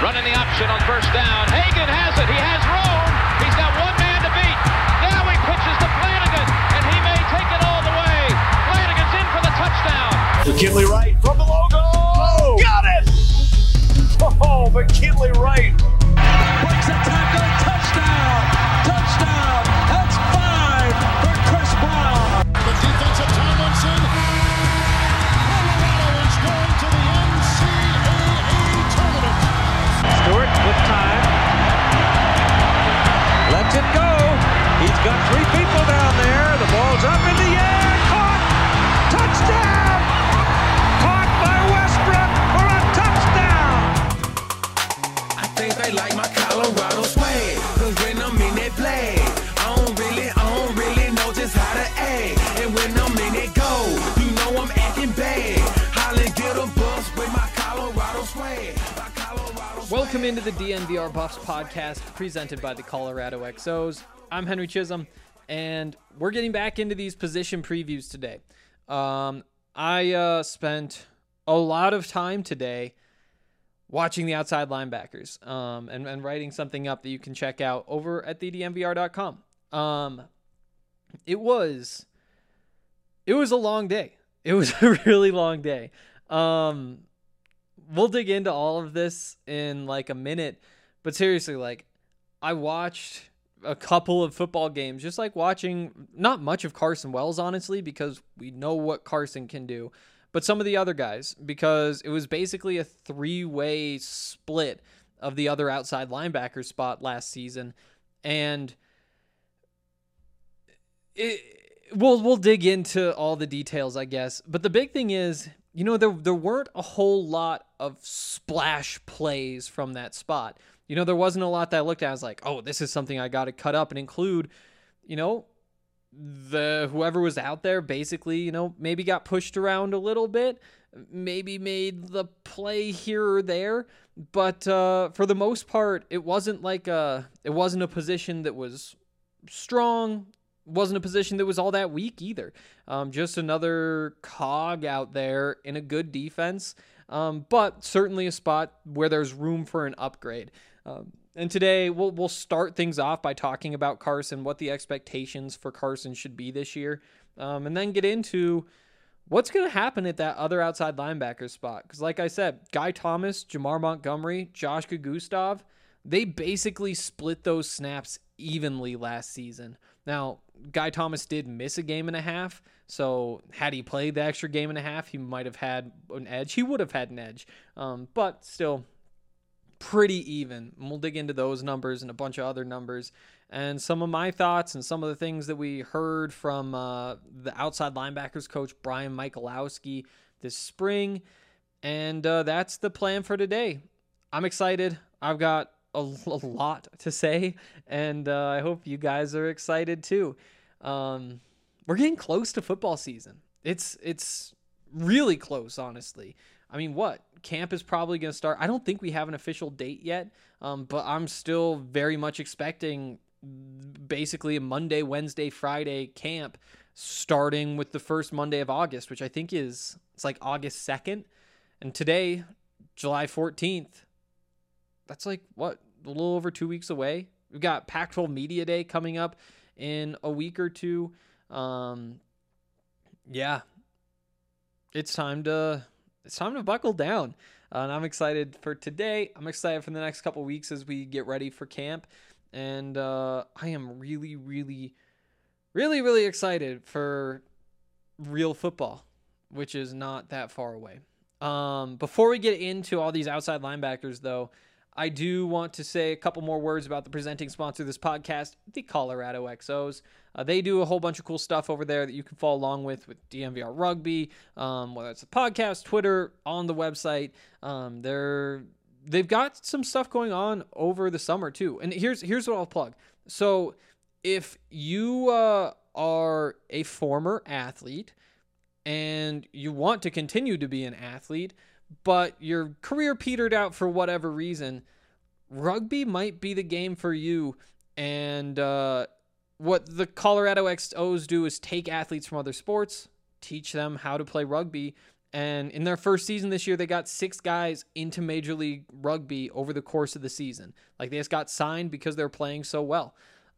Running the option on first down. Hagan has it. He has room. He's got one man to beat. Now he pitches to Flanagan, and he may take it all the way. Flanagan's in for the touchdown. McKinley Wright from the logo. Oh, got it! Oh, McKinley Wright. Breaks a tackle. Touchdown. Touchdown. That's 5 for Chris Brown. The defense of Tomlinson. Colorado is going to the NCAA tournament. Stewart with time. Lets it go. He's got 3 people down there. The ball's up in the air. Caught. Touchdown. Caught by Westbrook for a touchdown. I think they like my Colorado swag, cause when I'm in that play, I don't really know just how to act. And when I'm in that go, you know I'm acting bad. Holly get a bus with my Colorado swag. Welcome into the DNVR Buffs podcast presented by the Colorado XOs. I'm Henry Chisholm, and we're getting back into these position previews today. I spent a lot of time today watching the outside linebackers and writing something up that you can check out over at thednvr.com. It was a long day. It was a really long day. We'll dig into all of this in like a minute, but seriously, like I watched a couple of football games, just like watching not much of Carson Wells, honestly, because we know what Carson can do, but some of the other guys, because it was basically a 3-way split of the other outside linebacker spot last season. And we'll dig into all the details, I guess. But the big thing is, you know, there weren't a whole lot of splash plays from that spot. You know, there wasn't a lot that I looked at. I was like, oh, this is something I got to cut up and include. You know, whoever was out there basically, you know, maybe got pushed around a little bit, maybe made the play here or there. But for the most part, it wasn't a position that was strong. Wasn't a position that was all that weak either. Just another cog out there in a good defense, but certainly a spot where there's room for an upgrade. And today we'll start things off by talking about Carson, what the expectations for Carson should be this year, and then get into what's going to happen at that other outside linebacker spot. Because like I said, Guy Thomas, Jamar Montgomery, Josh Gustav, they basically split those snaps evenly last season. Now, Guy Thomas did miss a game and a half, so had he played the extra game and a half, he might have had an edge. He would have had an edge, but still pretty even. And we'll dig into those numbers and a bunch of other numbers and some of my thoughts and some of the things that we heard from the outside linebackers coach, Brian Michalowski, this spring. And that's the plan for today. I'm excited. I've got a lot to say, and I hope you guys are excited too. We're getting close to football season. It's really close, honestly. I mean, camp is probably going to start. I don't think we have an official date yet, but I'm still very much expecting basically a Monday, Wednesday, Friday camp starting with the first Monday of August, which I think it's like August 2nd. And today, July 14th, that's like, a little over 2 weeks away. We've got Pac-12 Media Day coming up in a week or two. Yeah, it's time to buckle down. And I'm excited for today. I'm excited for the next couple weeks as we get ready for camp. And I am really, really, really, really excited for real football, which is not that far away. Before we get into all these outside linebackers, though, I do want to say a couple more words about the presenting sponsor of this podcast, the Colorado XOs. They do a whole bunch of cool stuff over there that you can follow along with DNVR Rugby, whether it's a podcast, Twitter, on the website. They've got some stuff going on over the summer too. And here's what I'll plug. So if you are a former athlete and you want to continue to be an athlete, but your career petered out for whatever reason, rugby might be the game for you. And what the Colorado XOs do is take athletes from other sports, teach them how to play rugby, And in their first season this year, they got 6 guys into Major League Rugby over the course of the season. Like, they just got signed because they're playing so well.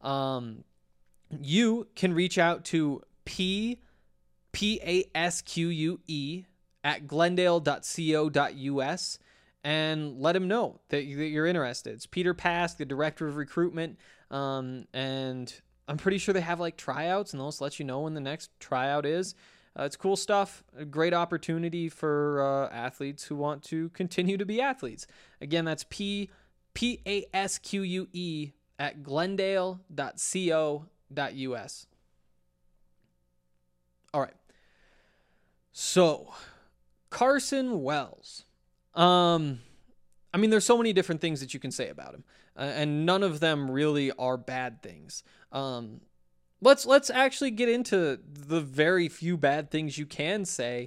You can reach out to PASQUE at glendale.co.us and let him know that you're interested. It's Peter Pask, the director of recruitment, and I'm pretty sure they have like tryouts, and they'll just let you know when the next tryout is. It's cool stuff. A great opportunity for athletes who want to continue to be athletes. Again, that's PASQUE at glendale.co.us. All right. So, Carson Wells. I mean, there's so many different things that you can say about him, and none of them really are bad things. Let's actually get into the very few bad things you can say,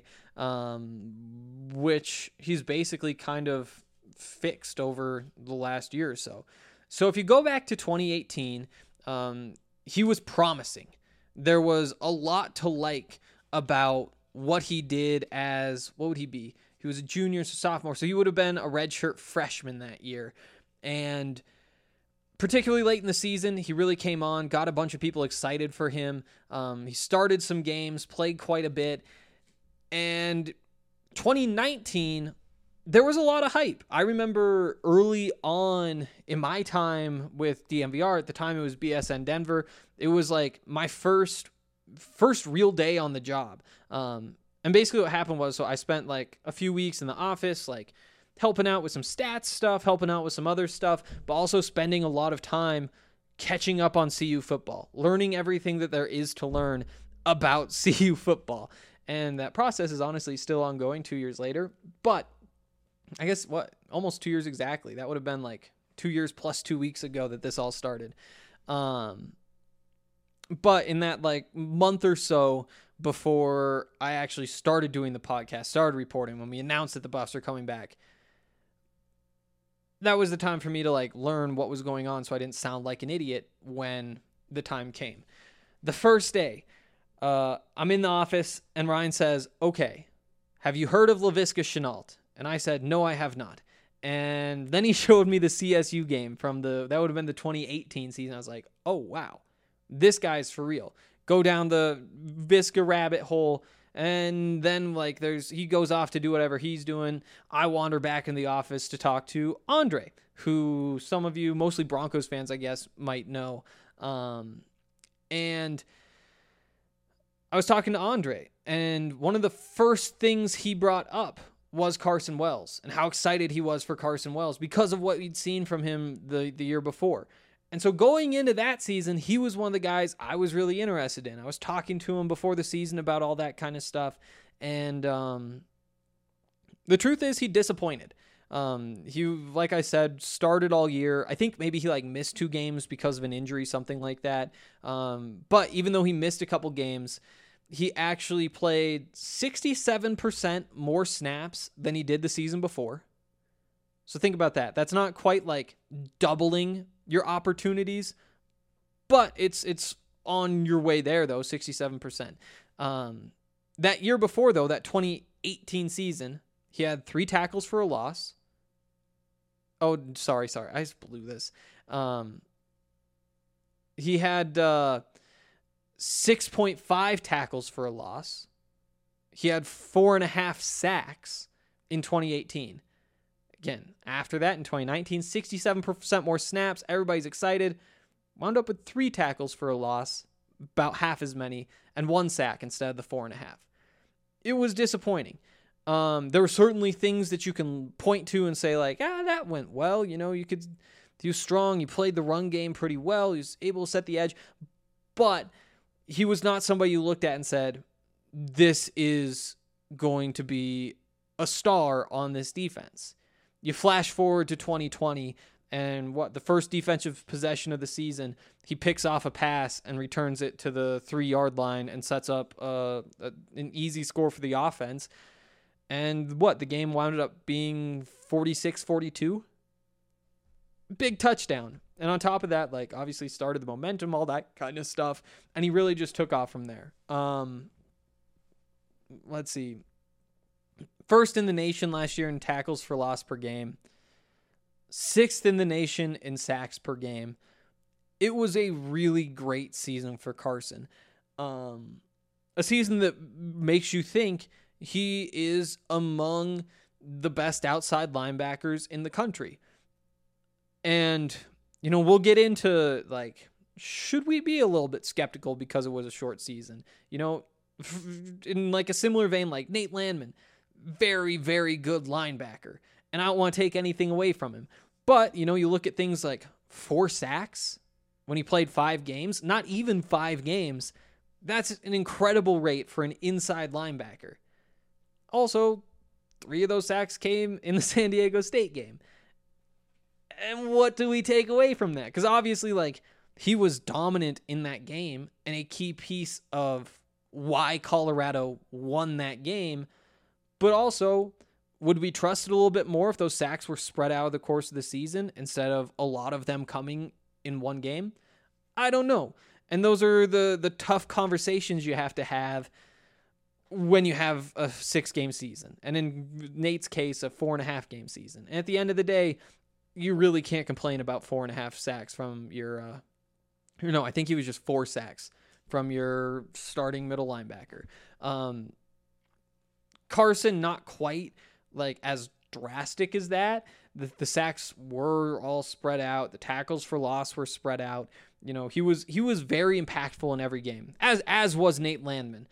which he's basically kind of fixed over the last year or so. So if you go back to 2018, he was promising. There was a lot to like about what he did as, what would he be? He was a junior, so sophomore, so he would have been a redshirt freshman that year. And particularly late in the season, he really came on, got a bunch of people excited for him. He started some games, played quite a bit. And 2019, there was a lot of hype. I remember early on in my time with DMVR, at the time it was BSN Denver, it was like my first real day on the job. And basically what happened was, so I spent like a few weeks in the office, like helping out with some stats stuff, helping out with some other stuff, but also spending a lot of time catching up on CU football, learning everything that there is to learn about CU football. And that process is honestly still ongoing 2 years later, but I guess almost 2 years exactly. That would have been like 2 years plus 2 weeks ago that this all started. But in that like month or so before I actually started doing the podcast, started reporting, when we announced that the Buffs are coming back, that was the time for me to like learn what was going on so I didn't sound like an idiot when the time came. The first day, I'm in the office and Ryan says, "Okay, have you heard of Laviska Shenault?" And I said, "No, I have not." And then he showed me the CSU game from that would have been the 2018 season. I was like, "Oh, wow, this guy's for real." Go down the Visca rabbit hole. And then like he goes off to do whatever he's doing. I wander back in the office to talk to Andre, who some of you, mostly Broncos fans, I guess, might know. And I was talking to Andre, and one of the first things he brought up was Carson Wells and how excited he was for Carson Wells because of what we'd seen from him the year before. And so going into that season, he was one of the guys I was really interested in. I was talking to him before the season about all that kind of stuff. And the truth is he disappointed. He, like I said, started all year. I think maybe he like missed 2 games because of an injury, something like that. But even though he missed a couple games, he actually played 67% more snaps than he did the season before. So think about that. That's not quite like doubling your opportunities, but it's on your way there though, 67%. That year before though, that 2018 season, he had 3 tackles for a loss. Oh, sorry. I just blew this. He had 6.5 tackles for a loss. He had 4.5 sacks in 2018. Again, after that in 2019, 67% more snaps. Everybody's excited. Wound up with 3 tackles for a loss, about half as many, and 1 sack instead of the 4.5. It was disappointing. There were certainly things that you can point to and say like, that went well. You know, he was strong. He played the run game pretty well. He was able to set the edge, but he was not somebody you looked at and said, this is going to be a star on this defense. You flash forward to 2020, and the first defensive possession of the season, he picks off a pass and returns it to the 3-yard line and sets up an easy score for the offense. And the game wound up being 46-42. Big touchdown. And on top of that, like obviously started the momentum, all that kind of stuff. And he really just took off from there. Let's see. First in the nation last year in tackles for loss per game. 6th in the nation in sacks per game. It was a really great season for Carson. A season that makes you think he is among the best outside linebackers in the country. And, we'll get into, should we be a little bit skeptical because it was a short season? In a similar vein, like Nate Landman, very, very good linebacker. And I don't want to take anything away from him. But, you look at things like 4 sacks when he played 5 games, not even 5 games. That's an incredible rate for an inside linebacker. Also, 3 of those sacks came in the San Diego State game. And what do we take away from that? Because obviously, he was dominant in that game and a key piece of why Colorado won that game. But also, would we trust it a little bit more if those sacks were spread out of the course of the season instead of a lot of them coming in one game? I don't know. And those are the tough conversations you have to have when you have a 6-game season. And in Nate's case, a 4.5-game season. And at the end of the day, you really can't complain about 4.5 sacks from your, I think he was just 4 sacks from your starting middle linebacker. Carson, not quite as drastic as that. The sacks were all spread out. The tackles for loss were spread out. He was very impactful in every game, as was Nate Landman.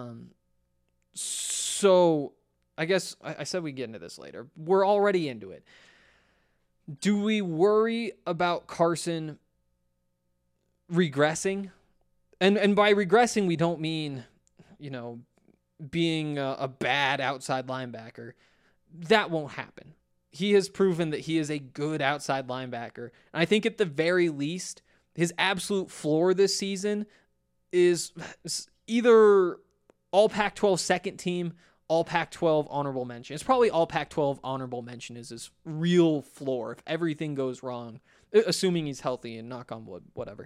So I guess I said we'd get into this later. We're already into it. Do we worry about Carson regressing? And by regressing, we don't mean, being a bad outside linebacker. That won't happen. He has proven that he is a good outside linebacker. And I think at the very least, his absolute floor this season is either all Pac-12 second team, all Pac-12 honorable mention. It's probably all Pac-12 honorable mention is his real floor if everything goes wrong, assuming he's healthy and knock on wood, whatever.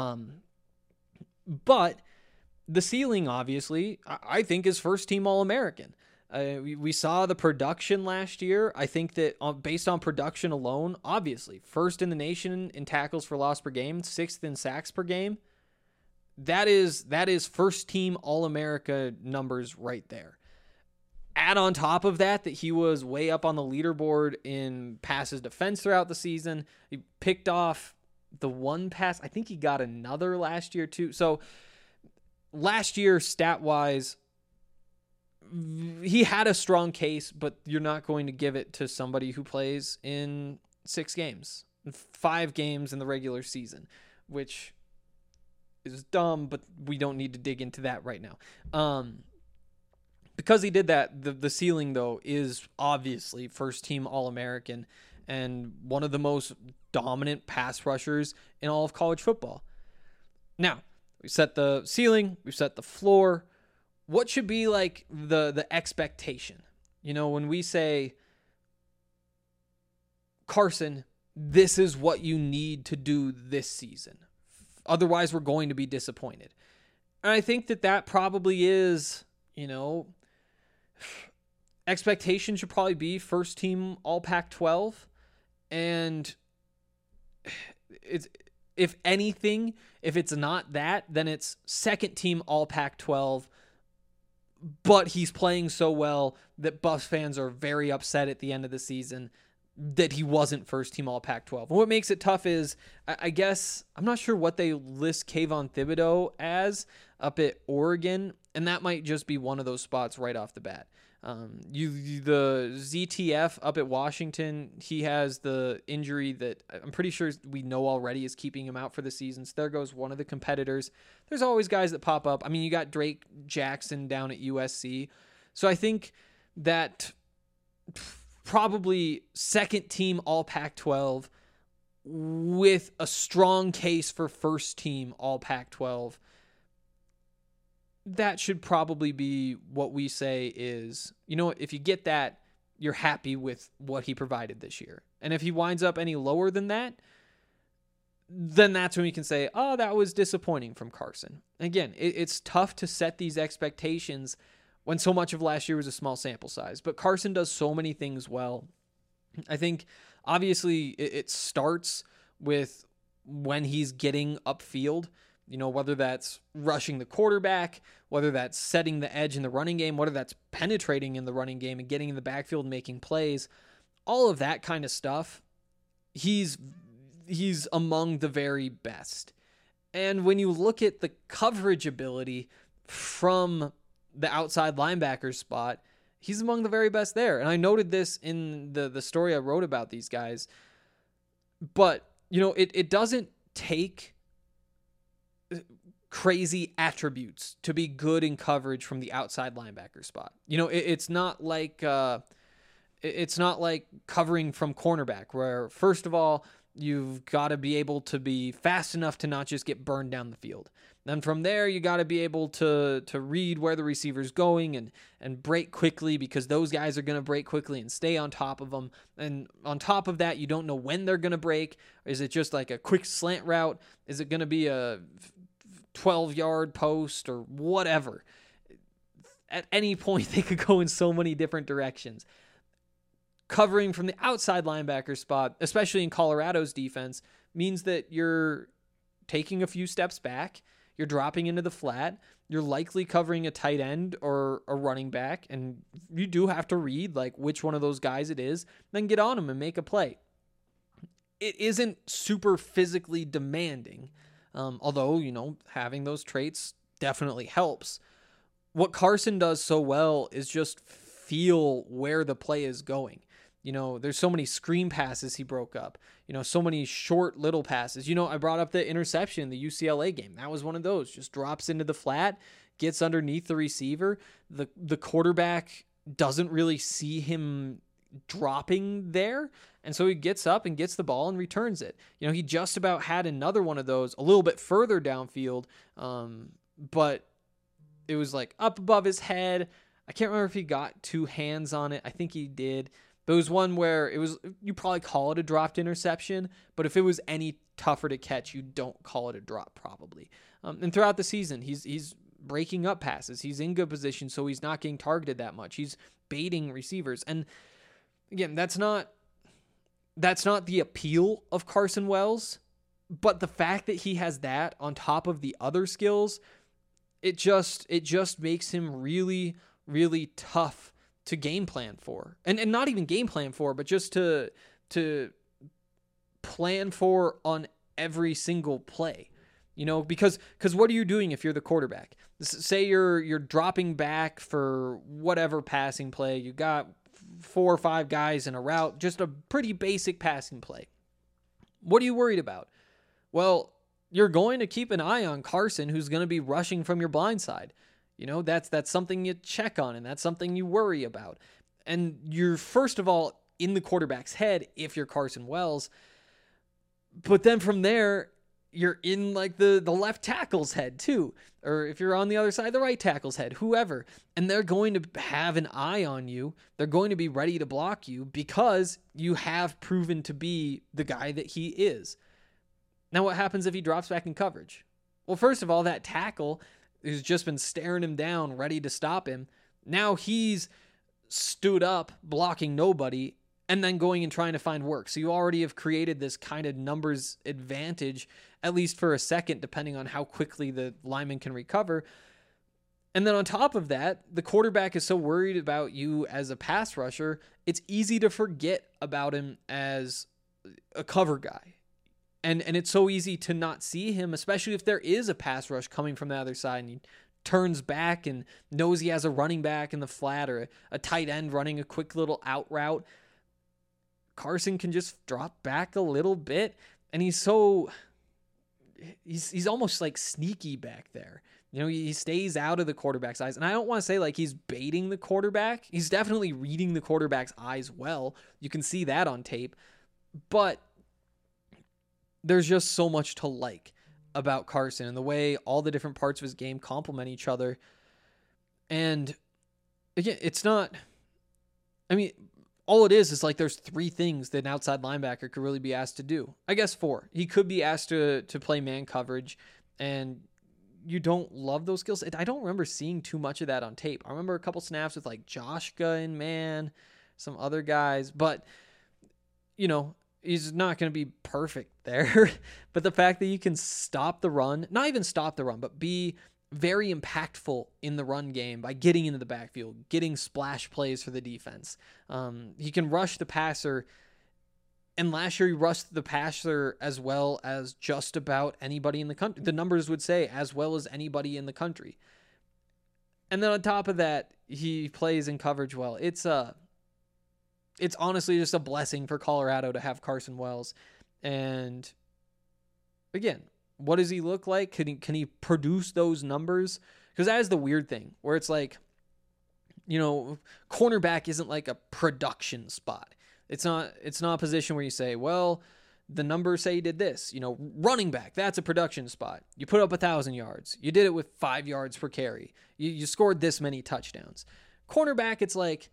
But the ceiling, obviously, I think is first team All-American. We saw the production last year. I think that based on production alone, obviously, first in the nation in tackles for loss per game, 6th in sacks per game. That is first team All-America numbers right there. Add on top of that he was way up on the leaderboard in passes defense throughout the season. He picked off the one pass. I think he got another last year too. So last year, stat-wise, he had a strong case, but you're not going to give it to somebody who plays in 6 games, 5 games in the regular season, which is dumb, but we don't need to dig into that right now. Because he did that, the ceiling, though, is obviously first team All-American and one of the most dominant pass rushers in all of college football. Now, we set the ceiling, we set the floor. What should be the expectation? When we say, Carson, this is what you need to do this season. Otherwise, we're going to be disappointed. And I think that probably is, expectation should probably be first team All Pac-12. And it's, if anything, if it's not that, then it's second team All Pac-12. But he's playing so well that Buffs fans are very upset at the end of the season that he wasn't first team All Pac-12. And what makes it tough is, I guess, I'm not sure what they list Kayvon Thibodeau as up at Oregon, and that might just be one of those spots right off the bat. The ZTF up at Washington, he has the injury that I'm pretty sure we know already is keeping him out for the season. So there goes one of the competitors. There's always guys that pop up. I mean, you got Drake Jackson down at USC. So I think that probably second team All Pac-12 with a strong case for first team All Pac-12. That should probably be what we say is, if you get that, you're happy with what he provided this year. And if he winds up any lower than that, then that's when we can say, that was disappointing from Carson. Again, it's tough to set these expectations when so much of last year was a small sample size. But Carson does so many things well. I think obviously it starts with when he's getting upfield, whether that's rushing the quarterback, whether that's setting the edge in the running game, whether that's penetrating in the running game and getting in the backfield and making plays, all of that kind of stuff. He's among the very best. And when you look at the coverage ability from the outside linebacker spot, he's among the very best there. And I noted this in the story I wrote about these guys. But, it doesn't take crazy attributes to be good in coverage from the outside linebacker spot. It's not like covering from cornerback, where first of all, you've got to be able to be fast enough to not just get burned down the field. Then from there, you got to be able to read where the receiver's going and break quickly, because those guys are going to break quickly and stay on top of them. And on top of that, you don't know when they're going to break. Is it just like a quick slant route? Is it going to be a 12-yard post or whatever? At any point, they could go in so many different directions. Covering from the outside linebacker spot, especially in Colorado's defense, means that you're taking a few steps back, you're dropping into the flat, you're likely covering a tight end or a running back, and you do have to read like which one of those guys it is, then get on them and make a play. It isn't super physically demanding, although, having those traits definitely helps. What Carson does so well is just feel where the play is going. There's so many screen passes he broke up, so many short little passes. I brought up the interception in the UCLA game. That was one of those. Just drops into the flat, gets underneath the receiver. The quarterback doesn't really see him dropping there, and so he gets up and gets the ball and returns it. He just about had another one of those a little bit further downfield, but it was like up above his head. I can't remember if he got two hands on it. I think he did. There was one where you probably call it a dropped interception, but if it was any tougher to catch, you don't call it a drop probably. And throughout the season, he's breaking up passes. He's in good position, so he's not getting targeted that much. He's baiting receivers. And again, that's not the appeal of Carson Wells, but the fact that he has that on top of the other skills, it just makes him really, really tough to game plan for, and not even game plan for, but just to plan for on every single play, because what are you doing if you're the quarterback? Say you're dropping back for whatever passing play. You got 4 or 5 guys in a route, just a pretty basic passing play. What are you worried about? Well, you're going to keep an eye on Carson, who's going to be rushing from your blind side. That's something you check on, and that's something you worry about. And you're, first of all, in the quarterback's head if you're Carson Wells. But then from there, you're in like the left tackle's head too. Or if you're on the other side, the right tackle's head, whoever. And they're going to have an eye on you. They're going to be ready to block you because you have proven to be the guy that he is. Now, what happens if he drops back in coverage? Well, first of all, that tackle who's just been staring him down, ready to stop him. Now he's stood up, blocking nobody, and then going and trying to find work. So you already have created this kind of numbers advantage, at least for a second, depending on how quickly the lineman can recover. And then on top of that, the quarterback is so worried about you as a pass rusher, it's easy to forget about him as a cover guy. And it's so easy to not see him, especially if there is a pass rush coming from the other side and he turns back and knows he has a running back in the flat or a tight end running a quick little out route. Carson can just drop back a little bit, and he's almost like sneaky back there. He stays out of the quarterback's eyes. And I don't want to say like he's baiting the quarterback. He's definitely reading the quarterback's eyes well. You can see that on tape. But there's just so much to like about Carson and the way all the different parts of his game complement each other. And again, all it is like there's 3 things that an outside linebacker could really be asked to do. I guess 4. He could be asked to play man coverage and you don't love those skills. I don't remember seeing too much of that on tape. I remember a couple snaps with like Joshka and man, some other guys, but you know, he's not going to be perfect there. But the fact that you can stop the run, not even stop the run, but be very impactful in the run game by getting into the backfield, getting splash plays for the defense. He can rush the passer. And last year, he rushed the passer as well as just about anybody in the country. The numbers would say as well as anybody in the country. And then on top of that, he plays in coverage well. It's honestly just a blessing for Colorado to have Carson Wells. And again, what does he look like? Can he produce those numbers? Because that is the weird thing where it's like, you know, cornerback isn't like a production spot. It's not a position where you say, well, the numbers say you did this. You know, running back, that's a production spot. You put up 1,000 yards. You did it with 5 yards per carry. You scored this many touchdowns. Cornerback, it's like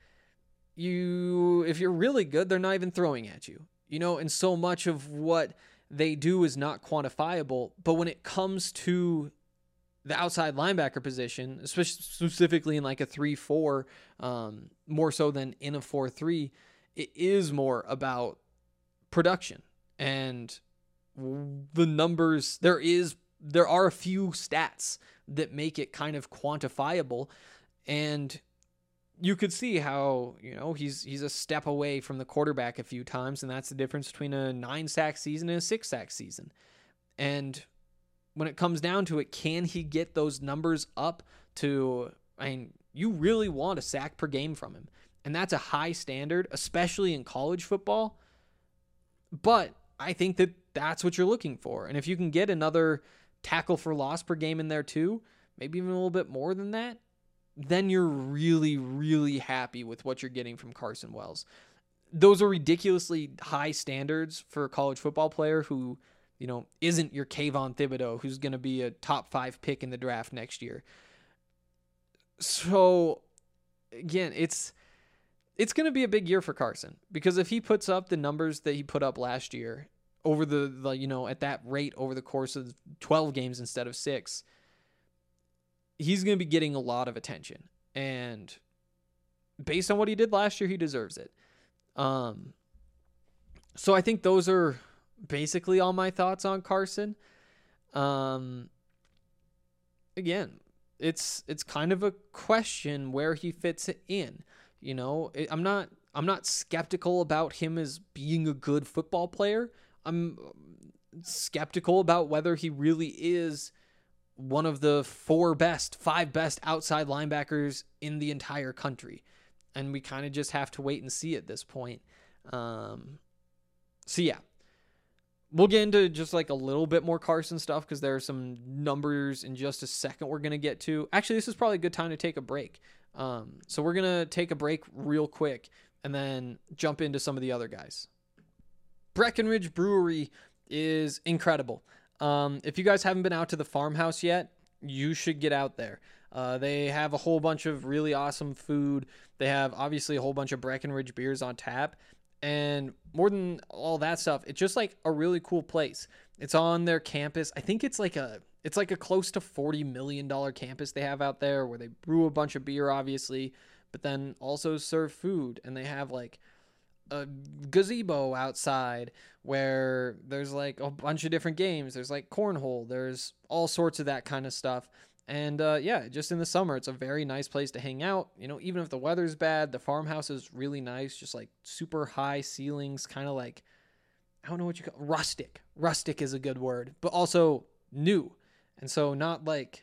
if you're really good, they're not even throwing at you. You know, and so much of what they do is not quantifiable. But when it comes to the outside linebacker position, especially specifically in like a 3-4, more so than in a 4-3, it is more about production and the numbers. There are a few stats that make it kind of quantifiable, and you could see how, you know, he's a step away from the quarterback a few times, and that's the difference between a 9-sack season and a 6-sack season. And when it comes down to it, can he get those numbers up to, I mean, you really want a sack per game from him. And that's a high standard, especially in college football. But I think that that's what you're looking for. And if you can get another tackle for loss per game in there too, maybe even a little bit more than that, then you're really, really happy with what you're getting from Carson Wells. Those are ridiculously high standards for a college football player who, you know, isn't your Kayvon Thibodeau, who's going to be a top 5 pick in the draft next year. So, again, it's going to be a big year for Carson, because if he puts up the numbers that he put up last year over the you know, at that rate over the course of 12 games instead of 6, he's going to be getting a lot of attention. And based on what he did last year, he deserves it. So I think those are basically all my thoughts on Carson. Again, it's kind of a question where he fits in. You know, I'm not skeptical about him as being a good football player. I'm skeptical about whether he really is one of the 5 best outside linebackers in the entire country. And we kind of just have to wait and see at this point. So yeah, we'll get into just like a little bit more Carson stuff, because there are some numbers in just a second we're going to get to. Actually, this is probably a good time to take a break. So we're going to take a break real quick and then jump into some of the other guys. Breckenridge Brewery is incredible. If you guys haven't been out to the farmhouse yet, you should get out there. They have a whole bunch of really awesome food. They have obviously a whole bunch of Breckenridge beers on tap. And more than all that stuff, it's just like a really cool place. It's on their campus. I think it's like a close to $40 million campus they have out there, where they brew a bunch of beer, obviously, but then also serve food. And they have like a gazebo outside where there's like a bunch of different games. There's like cornhole. There's all sorts of that kind of stuff. And yeah, just in the summer, it's a very nice place to hang out. You know, even if the weather's bad, the farmhouse is really nice. Just like super high ceilings, kind of like, I don't know what you call rustic. Rustic is a good word, but also new. And so not like,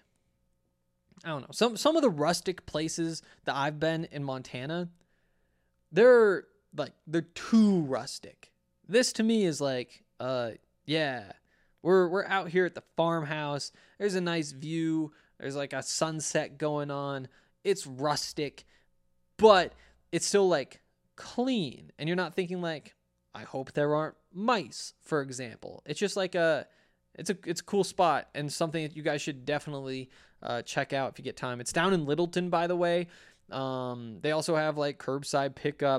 I don't know, some of the rustic places that I've been in Montana, they're too rustic. This to me is like, yeah, we're out here at the farmhouse. There's a nice view. There's like a sunset going on. It's rustic, but it's still like clean. And you're not thinking like, I hope there aren't mice, for example. It's just like it's a cool spot, and something that you guys should definitely check out if you get time. It's down in Littleton, by the way. They also have like curbside pickup.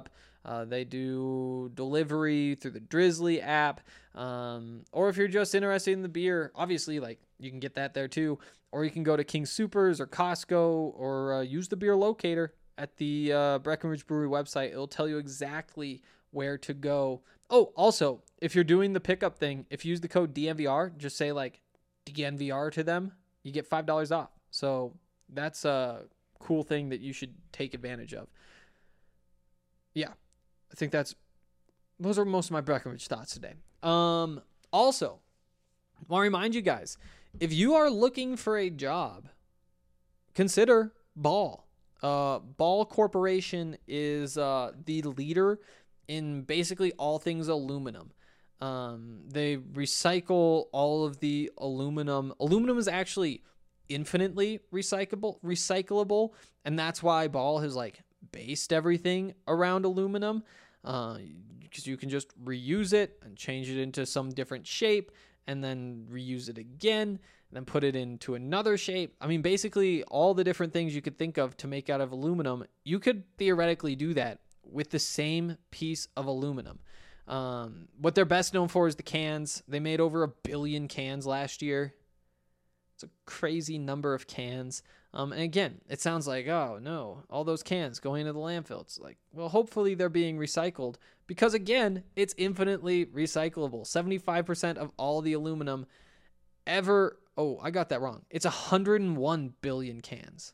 They do delivery through the Drizzly app. Or if you're just interested in the beer, obviously, like, you can get that there too. Or you can go to King Supers or Costco, or use the beer locator at the Breckenridge Brewery website. It'll tell you exactly where to go. Oh, also, if you're doing the pickup thing, if you use the code DNVR, just say like DNVR to them, you get $5 off. So that's a cool thing that you should take advantage of. Yeah, I think those are most of my Breckenridge thoughts today. Also, I want to remind you guys, if you are looking for a job, consider Ball. Ball Corporation is the leader in basically all things aluminum. They recycle all of the aluminum. Aluminum is actually infinitely recyclable, and that's why Ball has like based everything around aluminum, because you can just reuse it and change it into some different shape, and then reuse it again, and then put it into another shape. I mean, basically all the different things you could think of to make out of aluminum, you could theoretically do that with the same piece of aluminum. What they're best known for is the cans. They made over 1 billion cans last year. It's a crazy number of cans. And again, it sounds like, oh no, all those cans going into the landfill. It's like, well, hopefully they're being recycled, because again, it's infinitely recyclable. 75% of all the aluminum ever. Oh, I got that wrong. It's 101 billion cans.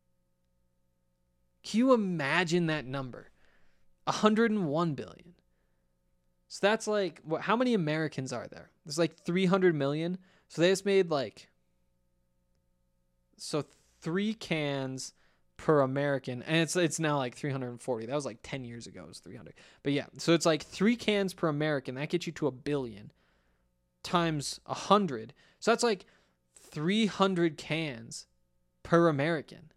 Can you imagine that number? 101 billion. So that's like, how many Americans are there? There's like 300 million. So they just made like, so 3 cans per American, and it's now like 340. That was like 10 years ago, it was 300. But yeah, so it's like 3 cans per American. That gets you to 1 billion times 100. So that's like 300 cans per American.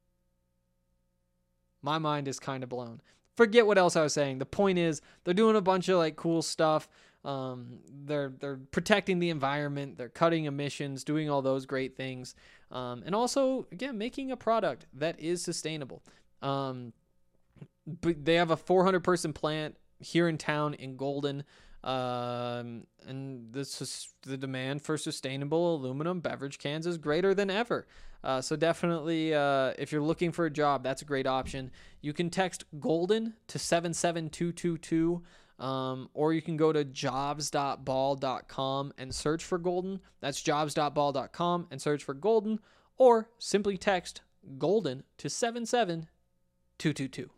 My mind is kind of blown. Forget what else I was saying. The point is, they're doing a bunch of like cool stuff. They're protecting the environment. They're cutting emissions, doing all those great things. And also, again, making a product that is sustainable. But they have a 400-person plant here in town in Golden. And the demand for sustainable aluminum beverage cans is greater than ever. So definitely, if you're looking for a job, that's a great option. You can text Golden to 77222. Or you can go to jobs.ball.com and search for Golden. That's jobs.ball.com and search for Golden, or simply text Golden to 77222.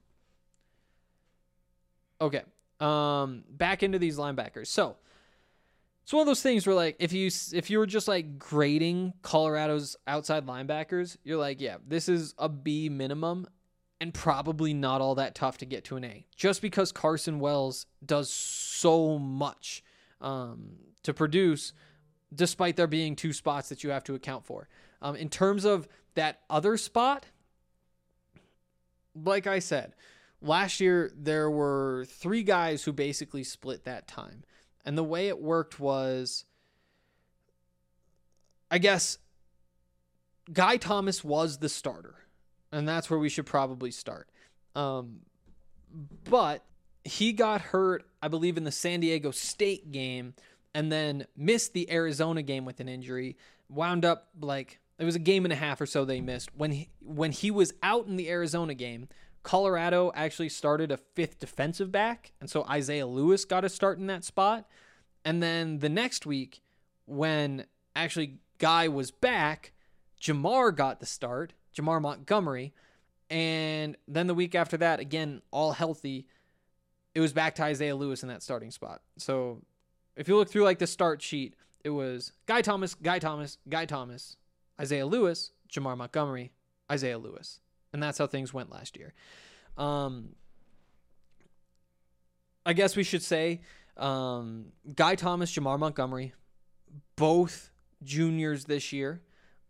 Okay. Back into these linebackers. So it's one of those things where, like, if you were just like grading Colorado's outside linebackers, you're like, yeah, this is a B minimum. And probably not all that tough to get to an A, just because Carson Wells does so much to produce, despite there being 2 spots that you have to account for. In terms of that other spot, like I said, last year there were 3 guys who basically split that time. And the way it worked was, I guess, Guy Thomas was the starter. And that's where we should probably start. But he got hurt, I believe, in the San Diego State game, and then missed the Arizona game with an injury. Wound up like, it was a game and a half or so they missed. When he was out in the Arizona game, Colorado actually started a 5th defensive back, and so Isaiah Lewis got a start in that spot. And then the next week, when actually Guy was back, Jamar got the start. Jamar Montgomery, and then the week after that, again, all healthy, it was back to Isaiah Lewis in that starting spot. So if you look through like the start sheet, it was Guy Thomas, Isaiah Lewis, Jamar Montgomery, Isaiah Lewis. And that's how things went last year. I guess we should say Guy Thomas, Jamar Montgomery, both juniors this year.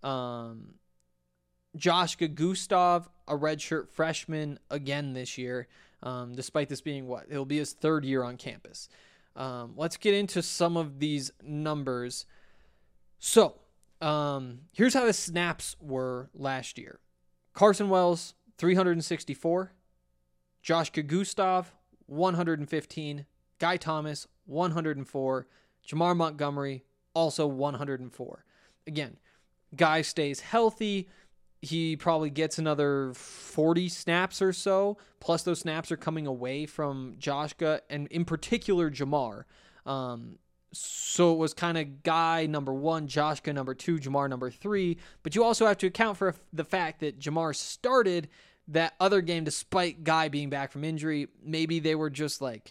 Josh Gustav, a redshirt freshman again this year, despite this being it'll be his 3rd year on campus. Let's get into some of these numbers. So, here's how the snaps were last year. Carson Wells, 364. Josh Gustav, 115. Guy Thomas, 104. Jamar Montgomery, also 104. Again, Guy stays healthy. He probably gets another 40 snaps or so, plus those snaps are coming away from Joshka, and in particular Jamar. So it was kind of Guy number 1, Joshka number 2, Jamar number 3, but you also have to account for the fact that Jamar started that other game despite Guy being back from injury. Maybe they were just like,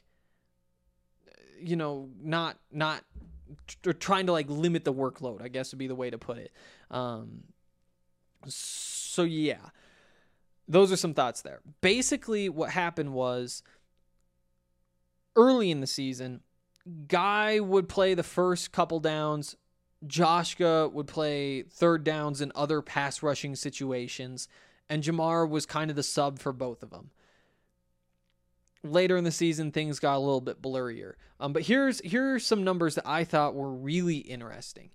not trying to like limit the workload, I guess would be the way to put it. So yeah, those are some thoughts there. Basically what happened was early in the season, Guy would play the first couple downs. Joshka would play third downs in other pass rushing situations. And Jamar was kind of the sub for both of them. Later in the season, things got a little bit blurrier. But here's some numbers that I thought were really interesting.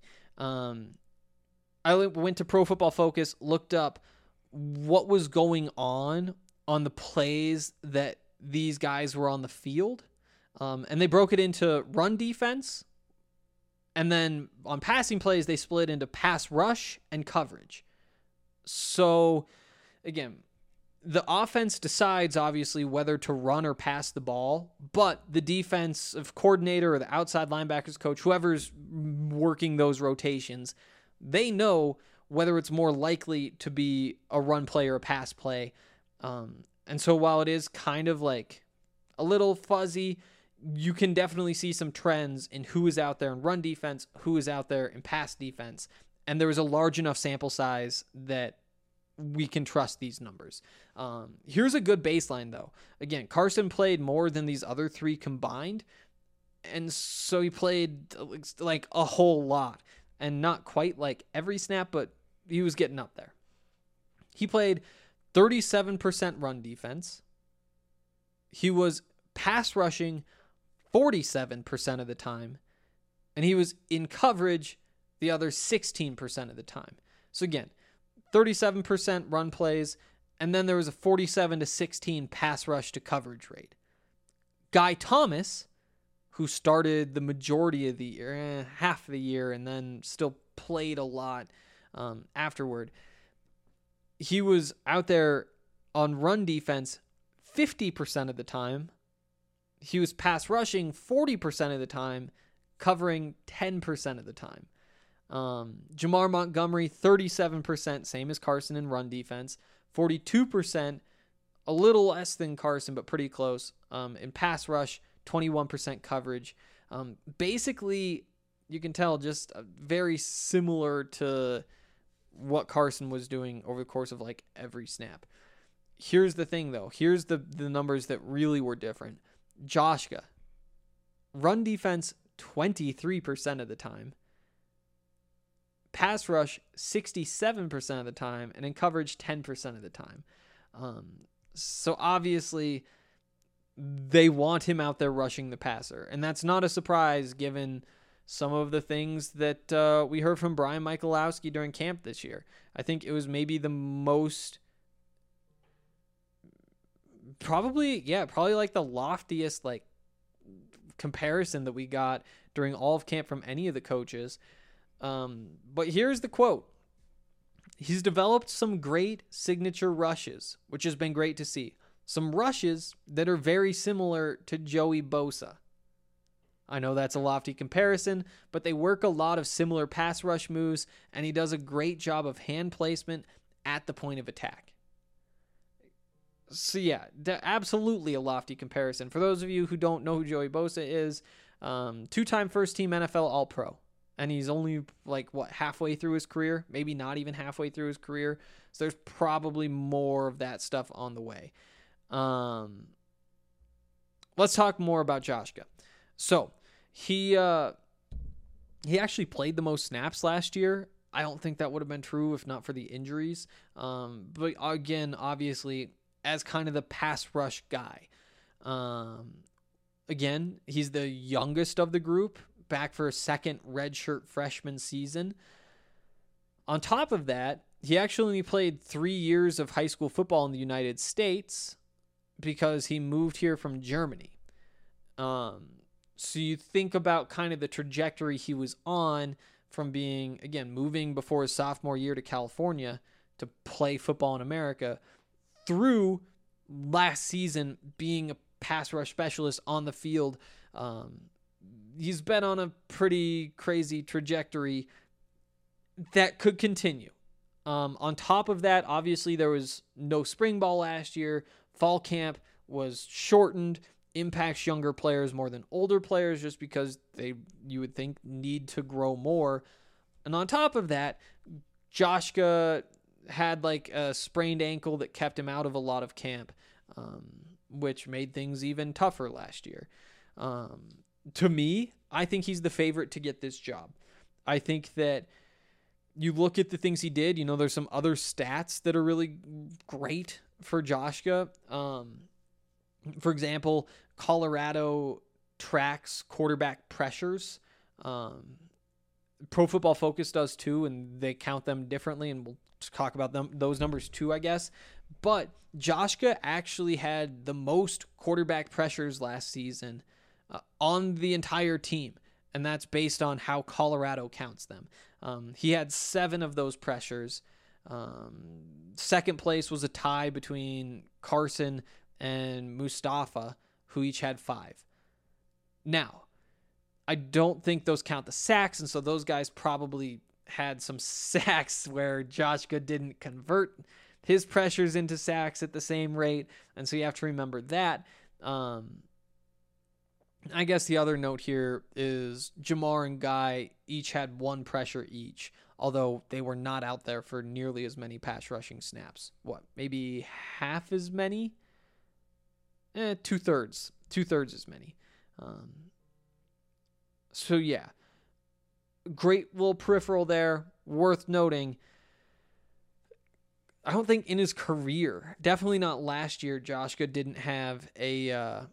I went to Pro Football Focus, looked up what was going on the plays that these guys were on the field. And they broke it into run defense. And then on passing plays, they split into pass rush and coverage. So, again, the offense decides, obviously, whether to run or pass the ball, but the defensive coordinator or the outside linebackers coach, whoever's working those rotations, they know whether it's more likely to be a run play or a pass play. And so while it is kind of like a little fuzzy, you can definitely see some trends in who is out there in run defense, who is out there in pass defense. And there was a large enough sample size that we can trust these numbers. Here's a good baseline, though. Again, Carson played more than these other three combined, and so he played like a whole lot, and not quite like every snap, but he was getting up there. He played 37% run defense. He was pass rushing 47% of the time, and he was in coverage the other 16% of the time. So again, 37% run plays, and then there was a 47-16 pass rush to coverage rate. Guy Thomas, who started the majority of the year, half of the year, and then still played a lot afterward, he was out there on run defense 50% of the time. He was pass rushing 40% of the time, covering 10% of the time. Jamar Montgomery, 37%, same as Carson in run defense. 42%, a little less than Carson, but pretty close. In pass rush, 21% coverage. Basically, you can tell just very similar to what Carson was doing over the course of like every snap. Here's the thing, though. Here's the numbers that really were different. Joshka, run defense 23% of the time. Pass rush 67% of the time, and in coverage 10% of the time. So obviously they want him out there rushing the passer, and that's not a surprise given some of the things that we heard from Brian Michalowski during camp this year. I think it was maybe the most, probably like the loftiest like comparison that we got during all of camp from any of the coaches. But here's the quote. He's developed some great signature rushes, which has been great to see. Some rushes that are very similar to Joey Bosa. I know that's a lofty comparison, but they work a lot of similar pass rush moves, and he does a great job of hand placement at the point of attack. So yeah, absolutely a lofty comparison. For those of you who don't know who Joey Bosa is, two-time first-team NFL All-Pro. And he's only halfway through his career, maybe not even halfway through his career. So there's probably more of that stuff on the way. Let's talk more about Joshka. So he actually played the most snaps last year. I don't think that would have been true if not for the injuries. But again, obviously, as kind of the pass rush guy. Again, he's the youngest of the group, back for a second redshirt freshman season. On top of that, he actually played 3 years of high school football in the United States because he moved here from Germany. So you think about kind of the trajectory he was on from being, again, moving before his sophomore year to California to play football in America through last season being a pass rush specialist on the field. He's been on a pretty crazy trajectory that could continue. On top of that, obviously there was no spring ball last year. Fall camp was shortened, impacts younger players more than older players just because you would think, need to grow more. And on top of that, Joshka had like a sprained ankle that kept him out of a lot of camp, which made things even tougher last year. To me, I think he's the favorite to get this job. I think that you look at the things he did, there's some other stats that are really great for Joshka. For example, Colorado tracks quarterback pressures. Pro Football Focus does too, and they count them differently, and we'll talk about those numbers too, I guess. But Joshka actually had the most quarterback pressures last season on the entire team, and that's based on how Colorado counts them. He had 7 of those pressures. Second place was a tie between Carson and Mustafa, who each had 5. Now, I don't think those count the sacks, and so those guys probably had some sacks where Joshka didn't convert his pressures into sacks at the same rate, and so you have to remember that. I guess the other note here is Jamar and Guy each had 1 pressure each, although they were not out there for nearly as many pass rushing snaps. Maybe half as many? 2/3. 2/3 as many. So yeah, great little peripheral there. Worth noting, I don't think in his career, definitely not last year, Joshka didn't have a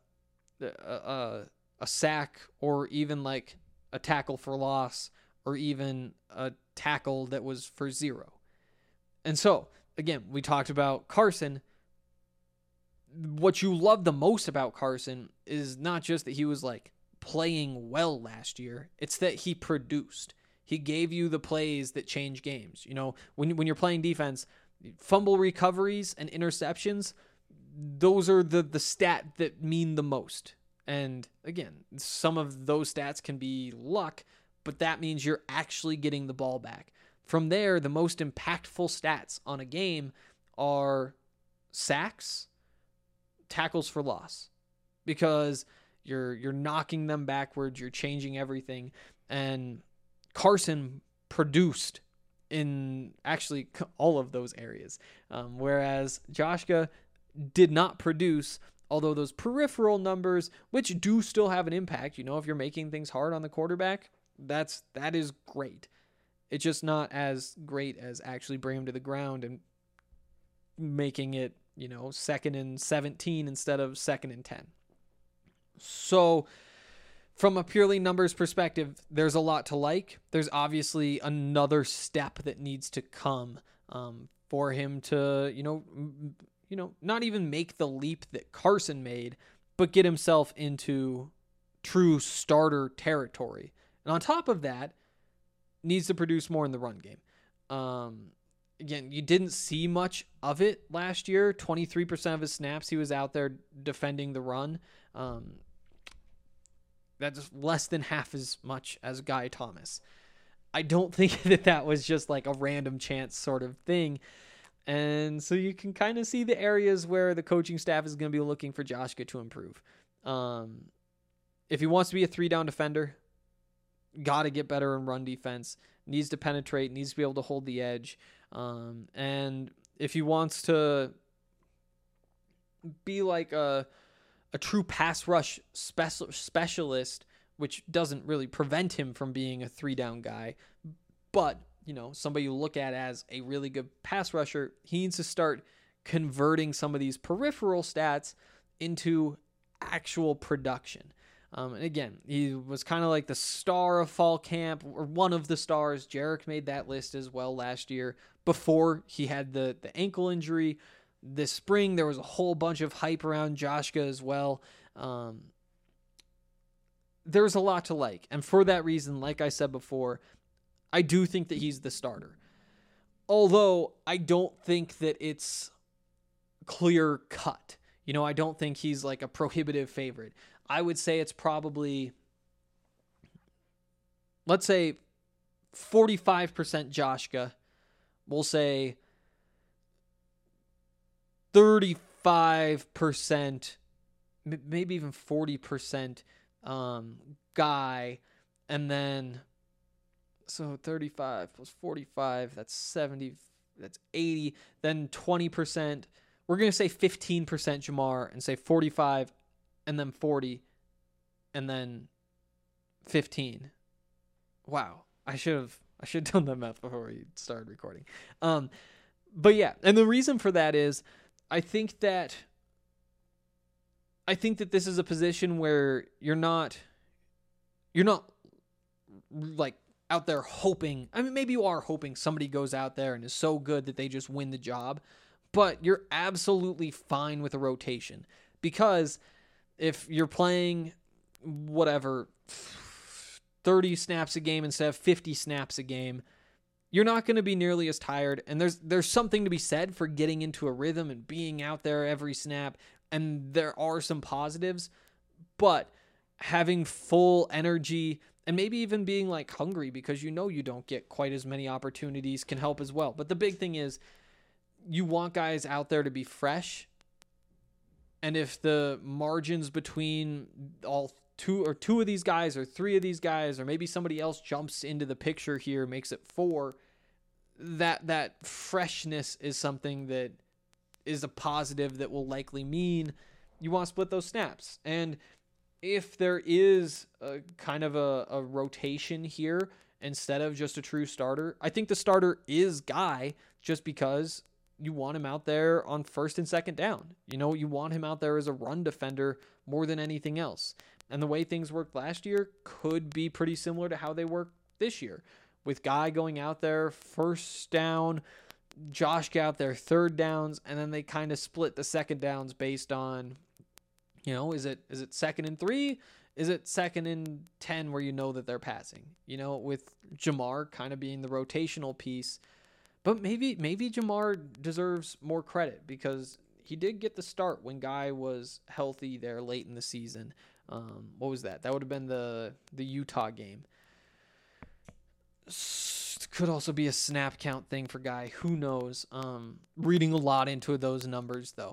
sack or even like a tackle for loss or even a tackle that was for 0. And so, again, we talked about Carson. What you love the most about Carson is not just that he was like playing well last year, it's that he produced. He gave you the plays that change games. When you're playing defense, fumble recoveries and interceptions, those are the stat that mean the most. And again, some of those stats can be luck, but that means you're actually getting the ball back. From there, the most impactful stats on a game are sacks, tackles for loss, because you're knocking them backwards, you're changing everything. And Carson produced in actually all of those areas, whereas Joshka did not produce, although those peripheral numbers, which do still have an impact, if you're making things hard on the quarterback, that is great. It's just not as great as actually bringing him to the ground and making it, 2nd and 17 instead of 2nd and 10. So from a purely numbers perspective, there's a lot to like. There's obviously another step that needs to come for him to, not even make the leap that Carson made, but get himself into true starter territory. And on top of that, needs to produce more in the run game. Again, you didn't see much of it last year. 23% of his snaps, he was out there defending the run. That's less than half as much as Guy Thomas. I don't think that was just like a random chance sort of thing. And so you can kind of see the areas where the coaching staff is going to be looking for Joshka to improve. If he wants to be a 3-down defender, got to get better in run defense, needs to penetrate, needs to be able to hold the edge. And if he wants to be like a true pass rush specialist, which doesn't really prevent him from being a 3-down guy, but somebody you look at as a really good pass rusher, he needs to start converting some of these peripheral stats into actual production. And again, he was kind of like the star of fall camp, or one of the stars. Jarek made that list as well last year before he had the ankle injury. This spring, there was a whole bunch of hype around Joshka as well. there's a lot to like. And for that reason, like I said before, I do think that he's the starter. Although I don't think that it's clear cut. I don't think he's like a prohibitive favorite. I would say it's probably, let's say 45% Joshka. We'll say 35%, maybe even 40% Guy. And then, so 35 plus 45, that's 70, that's 80. Then 20%, we're going to say 15% Jamar and say 45 and then 40 and then 15. Wow. I should have done that math before we started recording. But yeah, and the reason for that is I think that this is a position where you're not like out there hoping. I mean, maybe you are hoping somebody goes out there and is so good that they just win the job, but you're absolutely fine with a rotation, because if you're playing whatever 30 snaps a game instead of 50 snaps a game, you're not going to be nearly as tired. And there's something to be said for getting into a rhythm and being out there every snap. And there are some positives, but having full energy and maybe even being like hungry because you don't get quite as many opportunities can help as well. But the big thing is you want guys out there to be fresh. And if the margins between two of these guys or three of these guys, or maybe somebody else jumps into the picture here, makes it 4, that freshness is something that is a positive that will likely mean you want to split those snaps. And if there is a kind of a rotation here instead of just a true starter, I think the starter is Guy, just because you want him out there on first and second down. You want him out there as a run defender more than anything else. And the way things worked last year could be pretty similar to how they work this year, with Guy going out there first down, Josh out there third downs, and then they kind of split the second downs based on, is it second and 3? Is it second and 10 where that they're passing? With Jamar kind of being the rotational piece. But maybe Jamar deserves more credit because he did get the start when Guy was healthy there late in the season. What was that? That would have been the Utah game. Could also be a snap count thing for Guy. Who knows? Reading a lot into those numbers, though.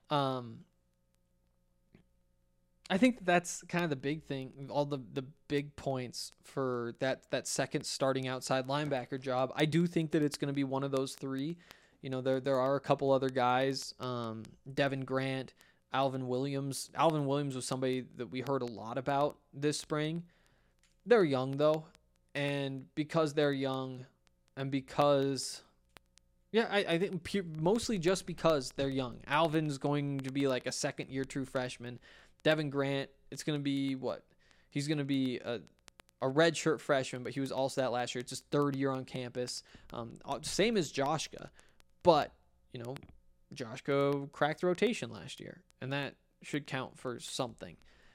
I think that's kind of the big thing, all the big points for that second starting outside linebacker job. I do think that it's going to be one of those 3. There are a couple other guys, Devin Grant, Alvin Williams. Alvin Williams was somebody that we heard a lot about this spring. They're young, though. And because they're young and because, I think mostly just because they're young. Alvin's going to be like a second-year true freshman. Devin Grant, it's going to be what? He's going to be a redshirt freshman, but he was also that last year. It's his third year on campus. Same as Joshka. But, Joshka cracked the rotation last year, and that should count for something.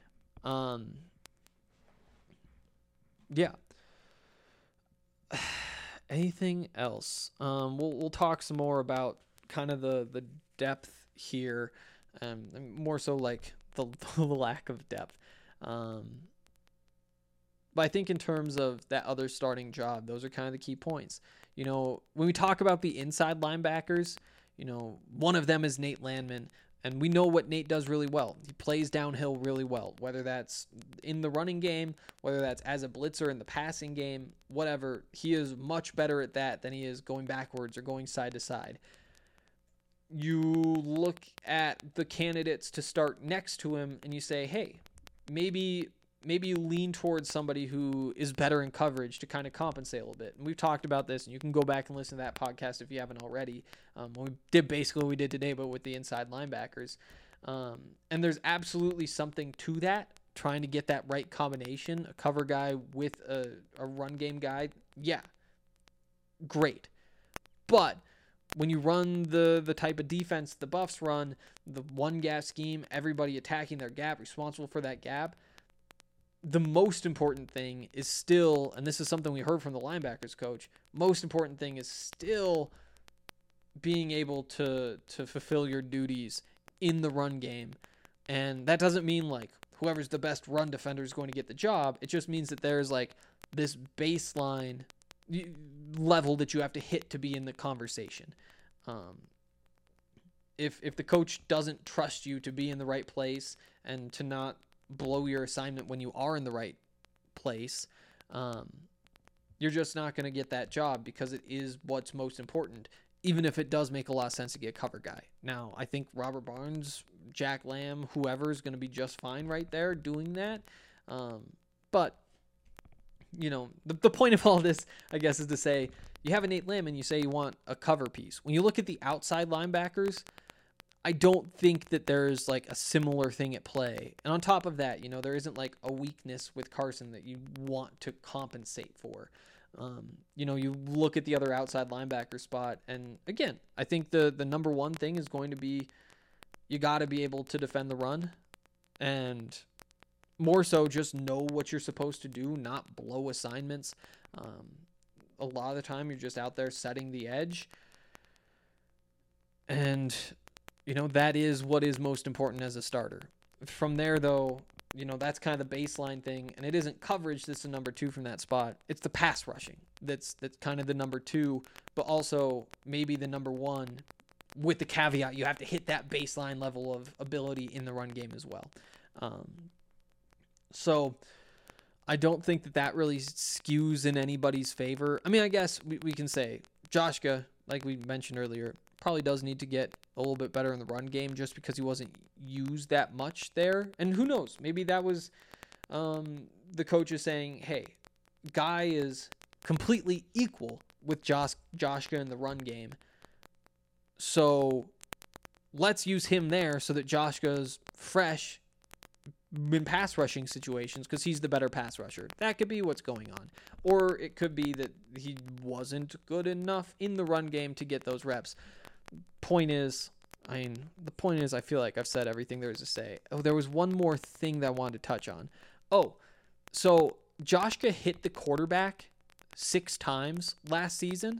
Yeah. Anything else? We'll talk some more about kind of the depth here, more so like the lack of depth. But I think in terms of that other starting job, those are kind of the key points. When we talk about the inside linebackers, one of them is Nate Landman, and we know what Nate does really well. He plays downhill really well, whether that's in the running game, whether that's as a blitzer in the passing game, whatever. He is much better at that than he is going backwards or going side to side. You look at the candidates to start next to him and you say, hey, maybe you lean towards somebody who is better in coverage to kind of compensate a little bit. And we've talked about this, and you can go back and listen to that podcast if you haven't already. We did basically what we did today, but with the inside linebackers. And there's absolutely something to that, trying to get that right combination, a cover guy with a run game guy. Yeah, great. But when you run the type of defense the Buffs run, the one gap scheme, everybody attacking their gap, responsible for that gap, the most important thing is still, and this is something we heard from the linebackers coach, most important thing is still being able to fulfill your duties in the run game. And that doesn't mean like whoever's the best run defender is going to get the job. It just means that there's like this baseline level that you have to hit to be in the conversation. If the coach doesn't trust you to be in the right place and to not blow your assignment when you are in the right place, you're just not going to get that job, because it is what's most important, even if it does make a lot of sense to get a cover guy. Now, I think Robert Barnes, Jack Lamb, whoever is going to be just fine right there doing that. But, you know, the point of all this, I guess, is to say you have a Nate Lamb and you say you want a cover piece. When you look at the outside linebackers, I don't think that there's like a similar thing at play. And on top of that, you know, there isn't like a weakness with Carson that you want to compensate for. You know, you look at the other outside linebacker spot, and again, I think the number one thing is going to be you got to be able to defend the run, and more so just know what you're supposed to do, not blow assignments. A lot of the time you're just out there setting the edge, and you know, that is what is most important as a starter. From there, though, you know, that's kind of the baseline thing, and it isn't coverage that's the number two from that spot. It's the pass rushing that's kind of the number two, but also maybe the number one, with the caveat you have to hit that baseline level of ability in the run game as well. So I don't think that really skews in anybody's favor. I mean, I guess we can say Joshka, like we mentioned earlier, probably does need to get a little bit better in the run game just because he wasn't used that much there. And who knows, maybe that was the coach is saying, hey, Guy is completely equal with Joshka in the run game, so let's use him there so that Joshka's fresh in pass rushing situations because he's the better pass rusher. That could be what's going on. Or it could be that he wasn't good enough in the run game to get those reps. The point is, I feel like I've said everything there is to say. Oh, there was one more thing that I wanted to touch on. Oh, so Joshka hit the quarterback 6 times last season.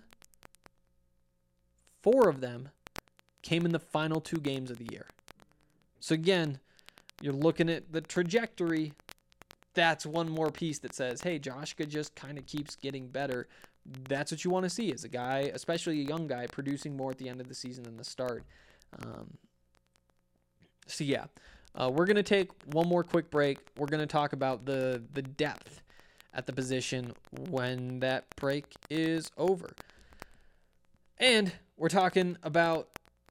4 of them came in the final 2 games of the year. So again, you're looking at the trajectory. That's one more piece that says, hey, Joshka just kind of keeps getting better. That's what you want to see as a guy, especially a young guy, producing more at the end of the season than the start. So yeah, we're going to take one more quick break. We're going to talk about the depth at the position when that break is over. And we're talking about,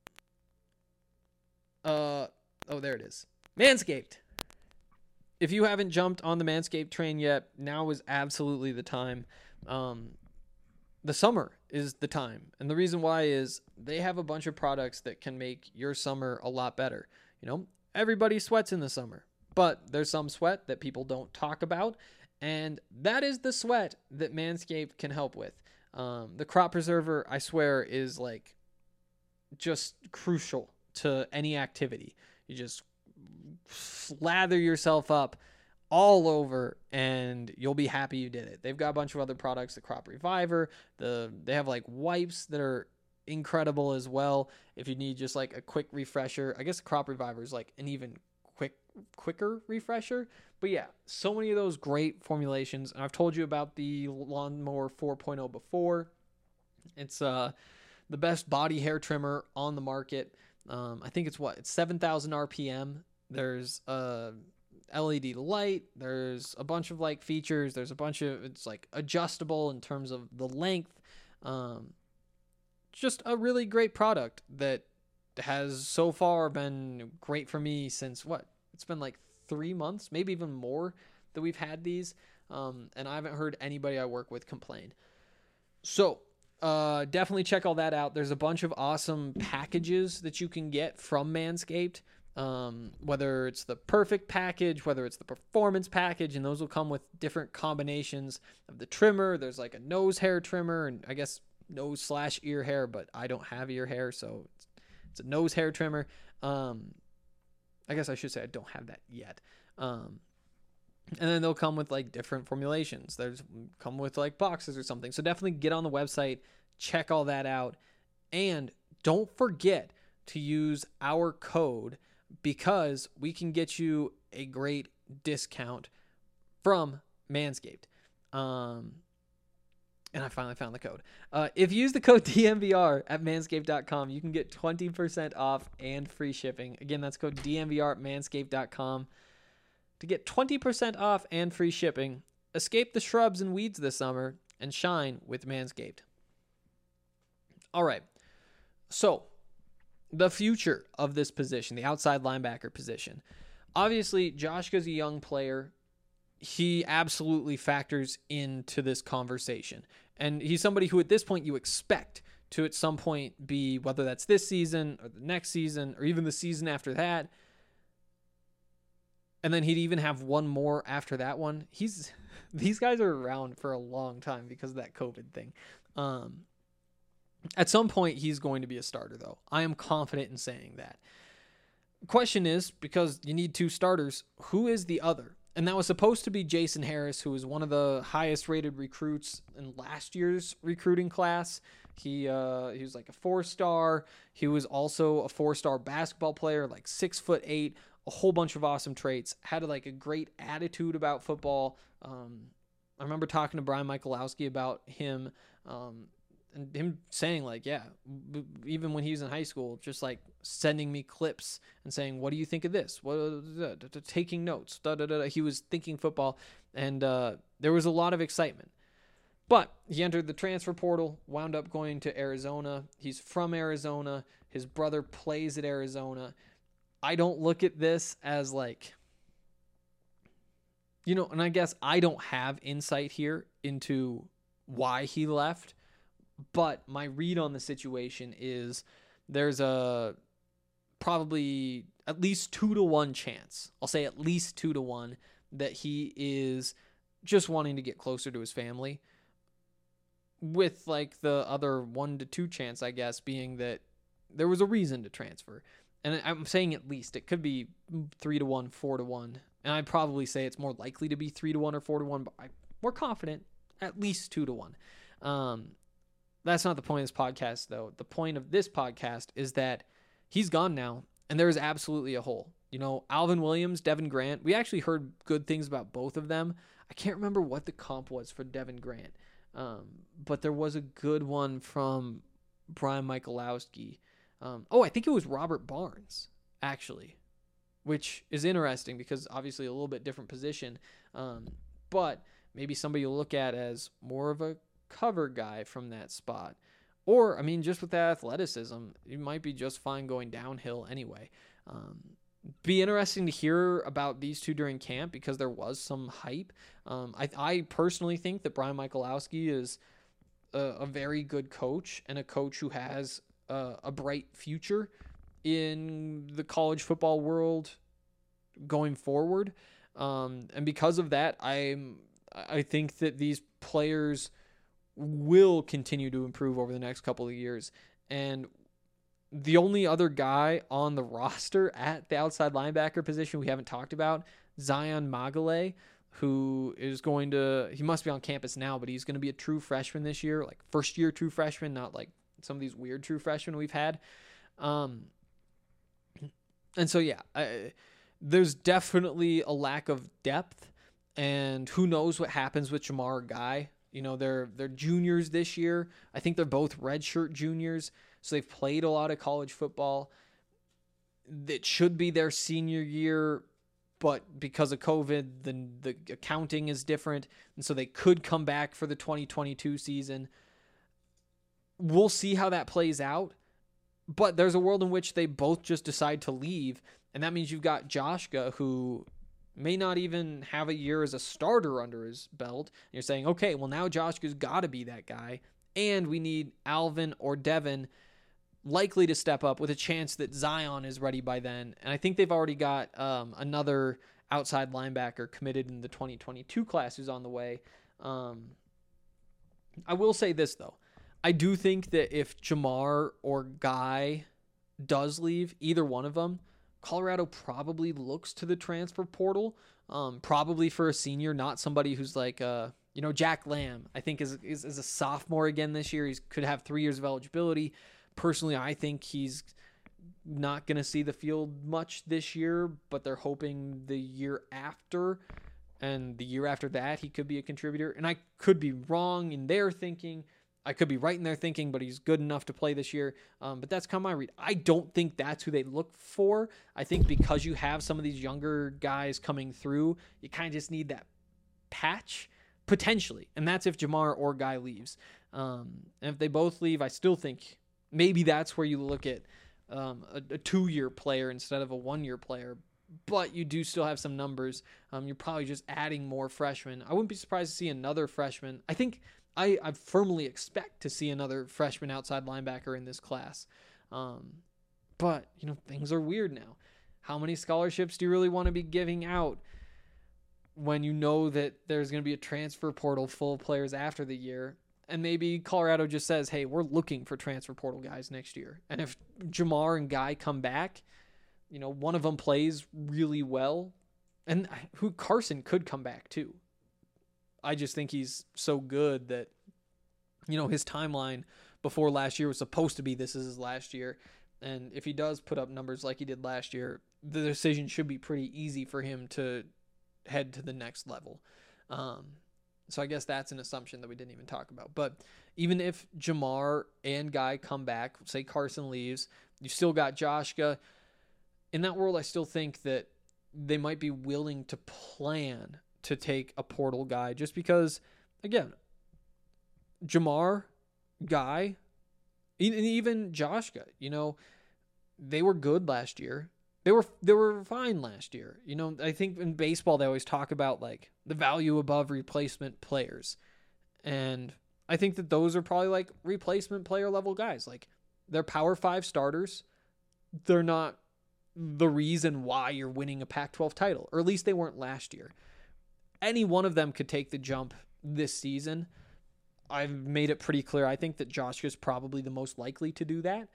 there it is. Manscaped. If you haven't jumped on the Manscaped train yet, now is absolutely the time. The summer is the time. And the reason why is they have a bunch of products that can make your summer a lot better. You know, everybody sweats in the summer, but there's some sweat that people don't talk about. And that is the sweat that Manscaped can help with. The crop preserver, I swear, is like just crucial to any activity. You just slather yourself up all over and you'll be happy you did it. They've got a bunch of other products, the Crop Reviver, they have like wipes that are incredible as well. If you need just like a quick refresher, I guess the Crop Reviver is like an even quicker refresher. But yeah, so many of those great formulations. And I've told you about the Lawnmower 4.0 before. It's the best body hair trimmer on the market. I think it's 7,000 RPM. There's a LED light. There's a bunch of like features. There's a bunch of, it's like adjustable in terms of the length. Just a really great product that has so far been great for me since it's been like 3 months, maybe even more that we've had these. And I haven't heard anybody I work with complain. So definitely check all that out. There's a bunch of awesome packages that you can get from Manscaped. Whether it's the perfect package, whether it's the performance package, and those will come with different combinations of the trimmer. There's like a nose hair trimmer, and I guess nose/ear hair, but I don't have ear hair, so it's a nose hair trimmer. I guess I should say I don't have that yet. And then they'll come with like different formulations. There's come with like boxes or something. So definitely get on the website, check all that out. And don't forget to use our code because we can get you a great discount from Manscaped. And I finally found the code. If you use the code DNVR at manscaped.com, you can get 20% off and free shipping. Again, that's code DNVR at manscaped.com to get 20% off and free shipping. Escape the shrubs and weeds this summer and shine with Manscaped. All right. So, the future of this position, the outside linebacker position. Obviously, Joshka's a young player. He absolutely factors into this conversation. And he's somebody who at this point you expect to at some point be, whether that's this season or the next season or even the season after that. And then he'd even have one more after that one. These guys are around for a long time because of that COVID thing. At some point, he's going to be a starter, though. I am confident in saying that. Question is, because you need two starters, who is the other? And that was supposed to be Jason Harris, who was one of the highest rated recruits in last year's recruiting class. He was like a 4-star. He was also a 4-star basketball player, like 6'8", a whole bunch of awesome traits, had like a great attitude about football. I remember talking to Brian Michalowski about him, and him saying like, yeah, even when he was in high school, just like sending me clips and saying, what do you think of this? Taking notes. He was thinking football, and there was a lot of excitement. But he entered the transfer portal, wound up going to Arizona. He's from Arizona. His brother plays at Arizona. I don't look at this as like, and I guess I don't have insight here into why he left. But my read on the situation is there's a probably at least 2-1 chance. I'll say at least 2-1 that he is just wanting to get closer to his family, with like the other 1-2 chance, I guess, being that there was a reason to transfer. And I'm saying at least. It could be 3-1, 4-1. And I'd probably say it's more likely to be 3-1 or 4-1, but I'm more confident at least 2-1. That's not the point of this podcast, though. The point of this podcast is that he's gone now, and there is absolutely a hole. Alvin Williams, Devin Grant, we actually heard good things about both of them. I can't remember what the comp was for Devin Grant, but there was a good one from Brian Michalowski. I think it was Robert Barnes, actually, which is interesting because obviously a little bit different position, but maybe somebody you'll look at as more of a cover guy from that spot. Or, just with that athleticism, you might be just fine going downhill anyway. Be interesting to hear about these two during camp because there was some hype. I personally think that Brian Michalowski is a very good coach and a coach who has a bright future in the college football world going forward. And because of that, I think that these players will continue to improve over the next couple of years. And the only other guy on the roster at the outside linebacker position we haven't talked about, Zion Magale, who is he must be on campus now, but he's going to be a true freshman this year, like first year true freshman, not like some of these weird true freshmen we've had. And so, yeah, there's definitely a lack of depth, and who knows what happens with Jamar Guy. They're juniors this year. I think they're both redshirt juniors, so they've played a lot of college football. It should be their senior year, but because of COVID, the accounting is different, and so they could come back for the 2022 season. We'll see how that plays out, but there's a world in which they both just decide to leave, and that means you've got Joshka, who may not even have a year as a starter under his belt. And you're saying, okay, well now Joshka's got to be that guy, and we need Alvin or Devin likely to step up with a chance that Zion is ready by then. And I think they've already got another outside linebacker committed in the 2022 class who's on the way. I will say this, though. I do think that if Jamar or Guy does leave, either one of them, Colorado probably looks to the transfer portal, probably for a senior, not somebody who's like, Jack Lamb, I think is a sophomore again this year. He could have 3 years of eligibility. Personally, I think he's not going to see the field much this year, but they're hoping the year after and the year after that he could be a contributor. And I could be wrong in their thinking. I could be right in their thinking, but he's good enough to play this year. But that's kind of my read. I don't think that's who they look for. I think because you have some of these younger guys coming through, you kind of just need that patch, potentially. And that's if Jamar or Guy leaves. And if they both leave, I still think maybe that's where you look at a 2-year player instead of a 1-year player. But you do still have some numbers. You're probably just adding more freshmen. I wouldn't be surprised to see another freshman. I think I firmly expect to see another freshman outside linebacker in this class. But, things are weird now. How many scholarships do you really want to be giving out when you know that there's going to be a transfer portal full of players after the year? And maybe Colorado just says, hey, we're looking for transfer portal guys next year. And if Jamar and Guy come back, one of them plays really well. And Carson could come back too. I just think he's so good that, his timeline before last year was supposed to be this is his last year. And if he does put up numbers like he did last year, the decision should be pretty easy for him to head to the next level. So I guess that's an assumption that we didn't even talk about. But even if Jamar and Guy come back, say Carson leaves, you still got Joshka. In that world, I still think that they might be willing to plan to take a portal guy just because, again, Jamar, Guy, and even Joshka, they were good last year. They were fine last year. I think in baseball they always talk about like the value above replacement players. And I think that those are probably like replacement player level guys. Like they're Power 5 starters. They're not the reason why you're winning a Pac-12 title, or at least they weren't last year. Any one of them could take the jump this season. I've made it pretty clear. I think that Joshua is probably the most likely to do that.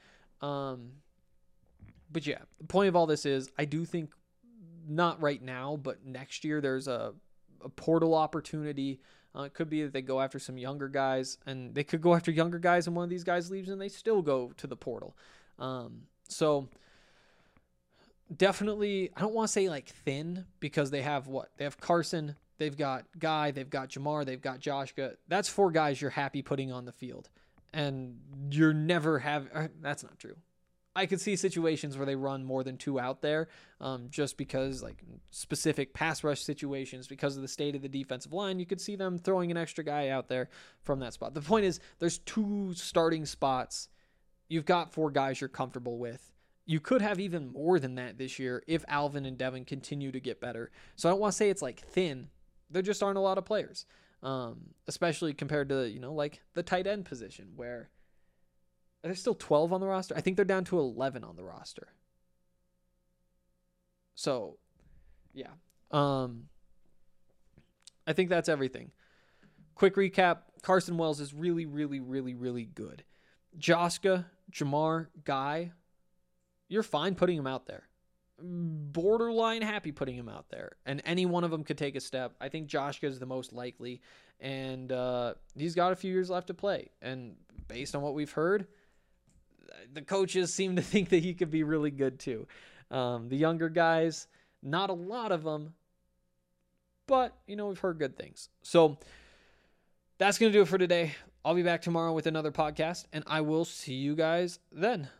But yeah, the point of all this is I do think not right now, but next year there's a portal opportunity. It could be that they go after some younger guys, and they could go after younger guys and one of these guys leaves and they still go to the portal. So definitely, I don't want to say like thin because they have what? They have Carson, they've got Guy, they've got Jamar, they've got Joshka. That's 4 guys you're happy putting on the field. And you're never that's not true. I could see situations where they run more than 2 out there just because like specific pass rush situations, because of the state of the defensive line, you could see them throwing an extra guy out there from that spot. The point is there's 2 starting spots. You've got 4 guys you're comfortable with. You could have even more than that this year if Alvin and Devin continue to get better. So I don't want to say it's like thin. There just aren't a lot of players, especially compared to, like the tight end position where there's still 12 on the roster. I think they're down to 11 on the roster. So, yeah. I think that's everything. Quick recap. Carson Wells is really, really, really, really good. Joshka, Jamar, Guy, you're fine putting him out there. Borderline happy putting him out there. And any one of them could take a step. I think Joshka is the most likely. And he's got a few years left to play. And based on what we've heard, the coaches seem to think that he could be really good too. The younger guys, not a lot of them, but, we've heard good things. So that's going to do it for today. I'll be back tomorrow with another podcast, and I will see you guys then.